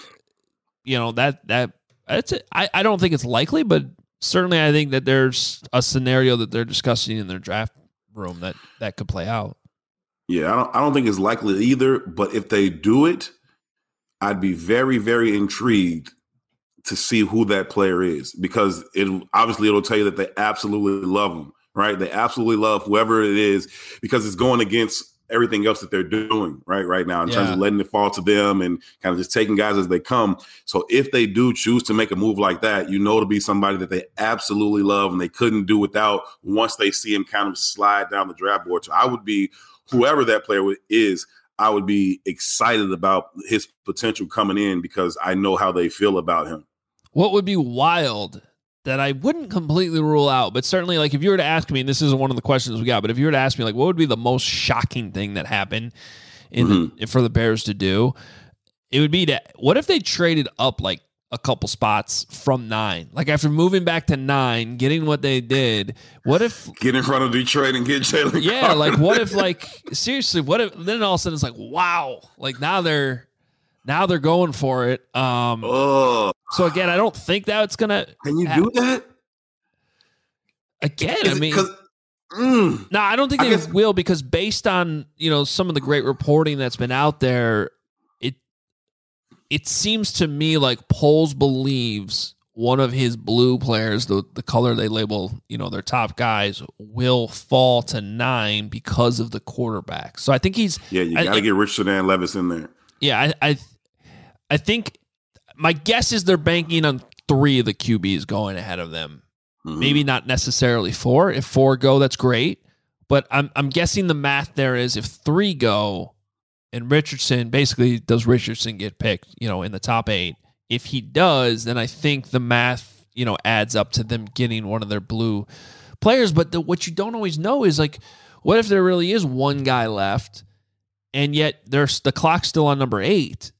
that's it. I don't think it's likely, but certainly I think that there's a scenario that they're discussing in their draft room that could play out. Yeah, I don't think it's likely either, but if they do it, I'd be very, very intrigued to see who that player is, because it'll tell you that they absolutely love him, right? They absolutely love whoever it is, because it's going against everything else that they're doing right now in terms of letting it fall to them and kind of just taking guys as they come. So if they do choose to make a move like that, to be somebody that they absolutely love and they couldn't do without once they see him kind of slide down the draft board. So I would be, whoever that player is, I would be excited about his potential coming in because I know how they feel about him. What would be wild that I wouldn't completely rule out, but certainly, like, if you were to ask me, and this isn't one of the questions we got, but if you were to ask me, like, what would be the most shocking thing that happened for the Bears to do, it would be what if they traded up like a couple spots from 9, like after moving back to 9, getting what they did. What if get in front of Detroit and get Jalen? Yeah, Carter. Like what if, like, seriously, what if then all of a sudden it's like, wow, like now they're going for it. So again, I don't think that it's gonna. Can you do that? Again, I mean, no, I don't think they will, because based on some of the great reporting that's been out there, it seems to me like Poles believes one of his blue players, the color they label their top guys, will fall to 9 because of the quarterback. So I think you got to get Richard and Levis in there. Yeah, I think my guess is they're banking on 3 of the QBs going ahead of them. Maybe not necessarily 4. If 4 go, that's great. But I'm guessing the math there is if 3 go and Richardson, basically, does Richardson get picked, in the top 8? If he does, then I think the math, adds up to them getting one of their blue players. But what you don't always know is, like, what if there really is one guy left and yet the clock's still on number 8?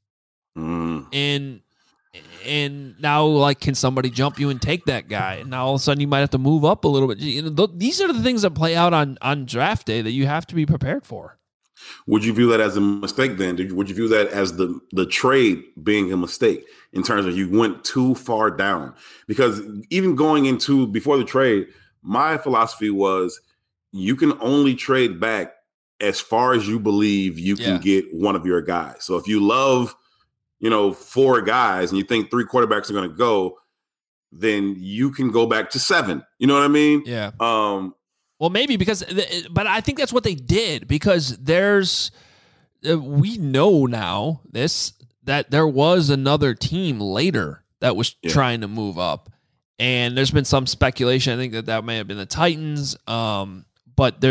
And now, like, can somebody jump you and take that guy? And now all of a sudden you might have to move up a little bit. These are the things that play out on draft day that you have to be prepared for. Would you view that as a mistake then? Would you view that as the trade being a mistake in terms of you went too far down? Because even going into before the trade, my philosophy was you can only trade back as far as you believe you can get one of your guys. So if you love 4 guys and you think 3 quarterbacks are going to go, then you can go back to 7. You know what I mean? Yeah. Well, maybe but I think that's what they did because we know now that there was another team later that was trying to move up, and there's been some speculation. I think that may have been the Titans, but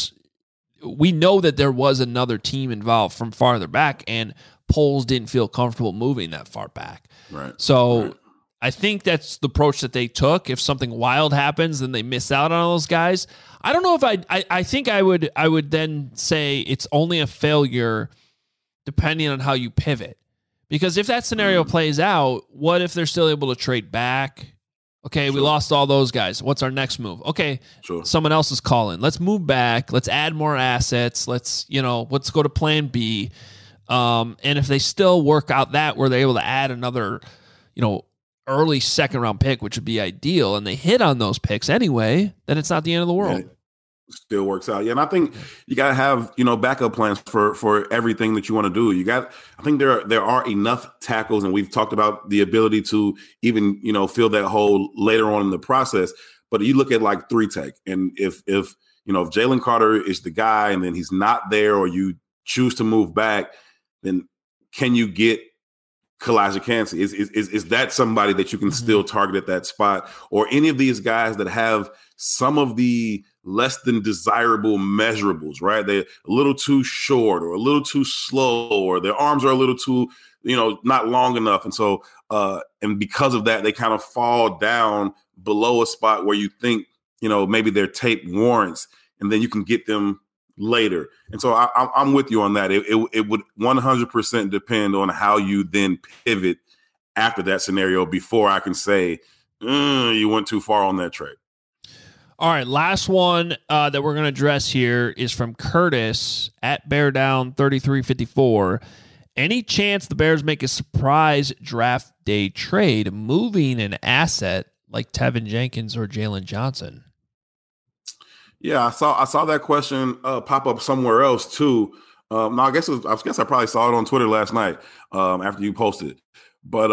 we know that there was another team involved from farther back, and Poles didn't feel comfortable moving that far back. Right. So I think that's the approach that they took. If something wild happens, then they miss out on those guys. I don't know if I think I would then say it's only a failure depending on how you pivot. Because if that scenario plays out, what if they're still able to trade back? Okay, we lost all those guys. What's our next move? Okay, someone else is calling. Let's move back. Let's add more assets. Let's go to plan B. And if they still work out that where they're able to add another, early second round pick, which would be ideal, and they hit on those picks anyway, then it's not the end of the world. Yeah, it still works out. Yeah, and I think you got to have, backup plans for everything that you want to do. I think there are enough tackles, and we've talked about the ability to even, fill that hole later on in the process. But you look at like 3-tech, and if Jalen Carter is the guy and then he's not there, or you choose to move back, then can you get Kalijah Kancey? Is that somebody that you can still target at that spot, or any of these guys that have some of the less than desirable measurables, right? They're a little too short or a little too slow, or their arms are a little too, not long enough. And so, and because of that, they kind of fall down below a spot where you think, maybe their tape warrants, and then you can get them later. And so I'm with you on that. It would 100% depend on how you then pivot after that scenario before I can say you went too far on that trade. All right, last one that we're going to address here is from Curtis at Bear Down 3354. Any chance the Bears make a surprise draft day trade, moving an asset like Tevin Jenkins or Jalen Johnson? Yeah, I saw that question pop up somewhere else too. No, I guess I probably saw it on Twitter last night after you posted it. But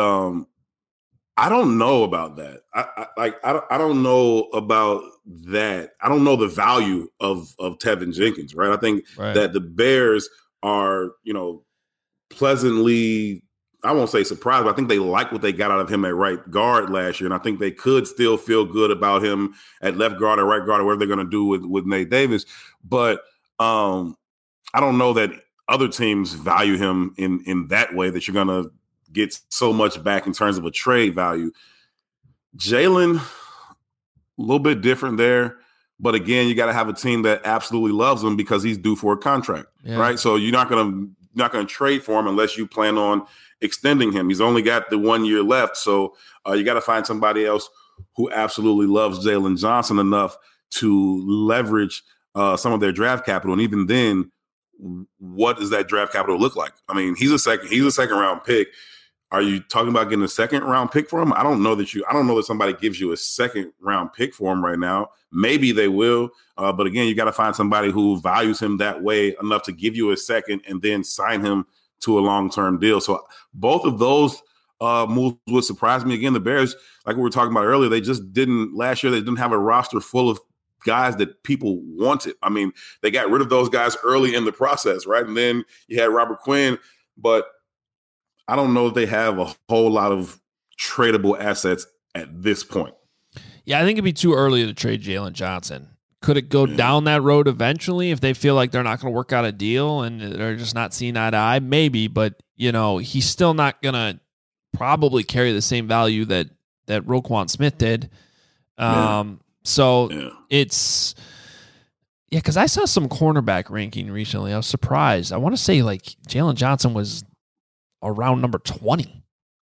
I don't know about that. I don't know about that. I don't know the value of Tevin Jenkins, right? I think that the Bears are, pleasantly, I won't say surprised, but I think they like what they got out of him at right guard last year. And I think they could still feel good about him at left guard or right guard or whatever they're going to do with Nate Davis. But I don't know that other teams value him in that way, that you're going to get so much back in terms of a trade value. Jalen, a little bit different there. But again, you got to have a team that absolutely loves him because he's due for a contract, right? So you're not going to trade for him unless you plan on extending him. He's only got the 1 year left. So you got to find somebody else who absolutely loves Jalen Johnson enough to leverage some of their draft capital. And even then, what does that draft capital look like? I mean, he's a second round pick. Are you talking about getting a second round pick for him? I don't know that somebody gives you a second round pick for him right now. Maybe they will. But again, you got to find somebody who values him that way enough to give you a second and then sign him to a long-term deal. So both of those moves would surprise me. Again, the Bears, like we were talking about earlier, last year, they didn't have a roster full of guys that people wanted. I mean, they got rid of those guys early in the process, right? And then you had Robert Quinn, but I don't know if they have a whole lot of tradable assets at this point. Yeah, I think it'd be too early to trade Jalen Johnson. Could it go down that road eventually if they feel like they're not going to work out a deal and they're just not seeing eye to eye? Maybe, but he's still not going to probably carry the same value that Roquan Smith did. It's because I saw some cornerback ranking recently. I was surprised. I want to say like Jalen Johnson was around number 20.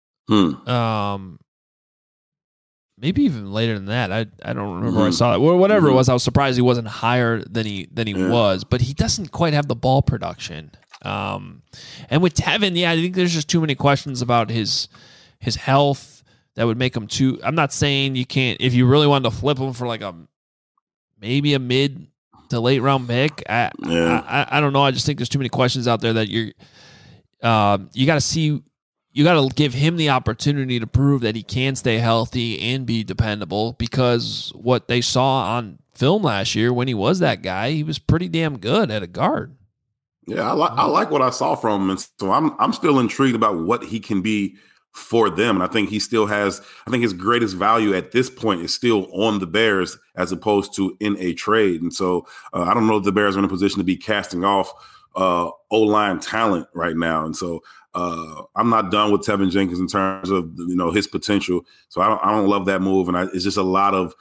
Maybe even later than that. I don't remember where I saw that. Whatever it was, I was surprised he wasn't higher than he was, but he doesn't quite have the ball production. And with Tevin, I think there's just too many questions about his health that would make him too. I'm not saying you can't, if you really wanted to flip him for like maybe a mid to late round pick. I don't know. I just think there's too many questions out there that you got to see you got to give him the opportunity to prove that he can stay healthy and be dependable, because what they saw on film last year when he was that guy, he was pretty damn good at a guard. Yeah, I like what I saw from him, and so I'm still intrigued about what he can be for them. And I think he still has, I think his greatest value at this point is still on the Bears as opposed to in a trade. And so I don't know if the Bears are in a position to be casting off O-line talent right now. And so I'm not done with Tevin Jenkins in terms of, his potential. So I don't love that move. And it's just a lot of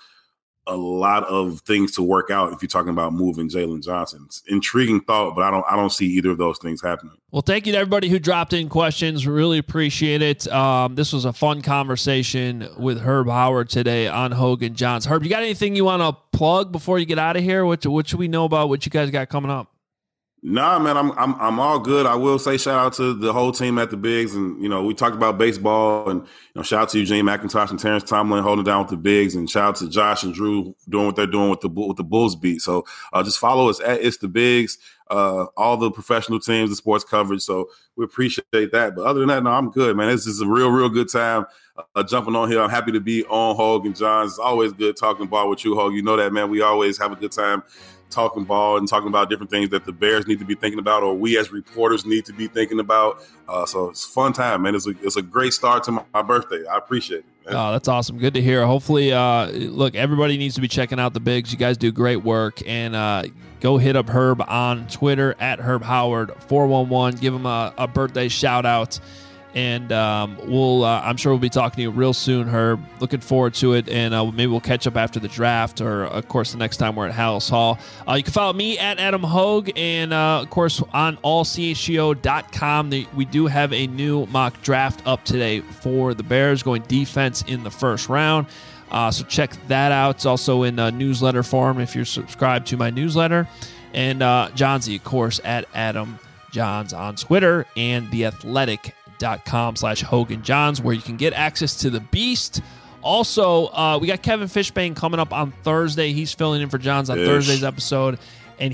things to work out if you're talking about moving Jalen Johnson. It's intriguing thought, but I don't see either of those things happening. Well, thank you to everybody who dropped in questions. Really appreciate it. This was a fun conversation with Herb Howard today on Hoge and Johns. Herb, you got anything you want to plug before you get out of here? What should we know about what you guys got coming up? Nah, man, I'm all good. I will say shout out to the whole team at the Bigs, and we talked about baseball, and shout out to Eugene McIntosh and Terrence Tomlin holding down with the Bigs, and shout out to Josh and Drew doing what they're doing with the Bulls beat. So just follow us at It's the Bigs, all the professional teams, the sports coverage. So we appreciate that. But other than that, no, I'm good, man. This is a real good time jumping on here. I'm happy to be on Hoge and Johns. It's always good talking ball with you, Hoge. You know that, man. We always have a good time talking ball and talking about different things that the Bears need to be thinking about, or we as reporters need to be thinking about. So it's a fun time, man. It's a great start to my birthday. I appreciate it, man. Oh, that's awesome. Good to hear. Hopefully, look, everybody needs to be checking out the Bigs. You guys do great work, and go hit up Herb on Twitter at Herb Howard 411. Give him a birthday shout out. And I'm sure we'll be talking to you real soon, Herb. Looking forward to it, and maybe we'll catch up after the draft, or of course the next time we're at Hallis Hall. You can follow me at Adam Hoge, and of course on allchgo.com. We do have a new mock draft up today for the Bears, going defense in the first round. So check that out. It's also in newsletter form if you're subscribed to my newsletter. And Johnsy, of course, at Adam Johns on Twitter, and The Athletic.com/Hoge and Johns, where you can get access to the Beast. Also, we got Kevin Fishbane coming up on Thursday. He's filling in for Johns on Thursday's episode, and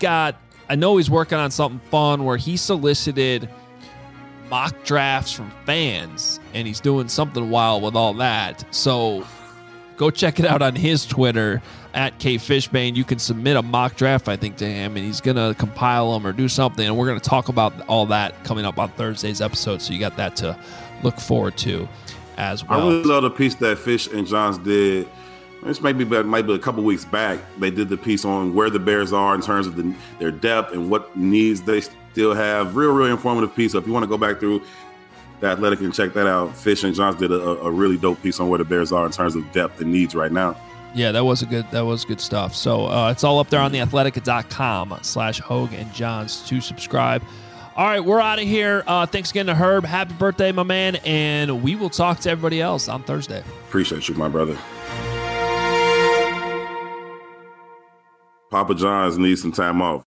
I know he's working on something fun where he solicited mock drafts from fans, and he's doing something wild with all that. So go check it out on his Twitter at KFishbane. You can submit a mock draft, I think, to him, and he's going to compile them or do something, and we're going to talk about all that coming up on Thursday's episode, so you got that to look forward to as well. I really love the piece that Fish and Johns did. This might be a couple weeks back. They did the piece on where the Bears are in terms of their depth and what needs they still have. Real informative piece. So if you want to go back through The Athletic and check that out, Fish and Johns did a really dope piece on where the Bears are in terms of depth and needs right now. Yeah, that was good stuff. So it's all up there on theathletic.com/Hoge and Johns to subscribe. All right, we're out of here. Thanks again to Herb. Happy birthday, my man. And we will talk to everybody else on Thursday. Appreciate you, my brother. Papa John's needs some time off.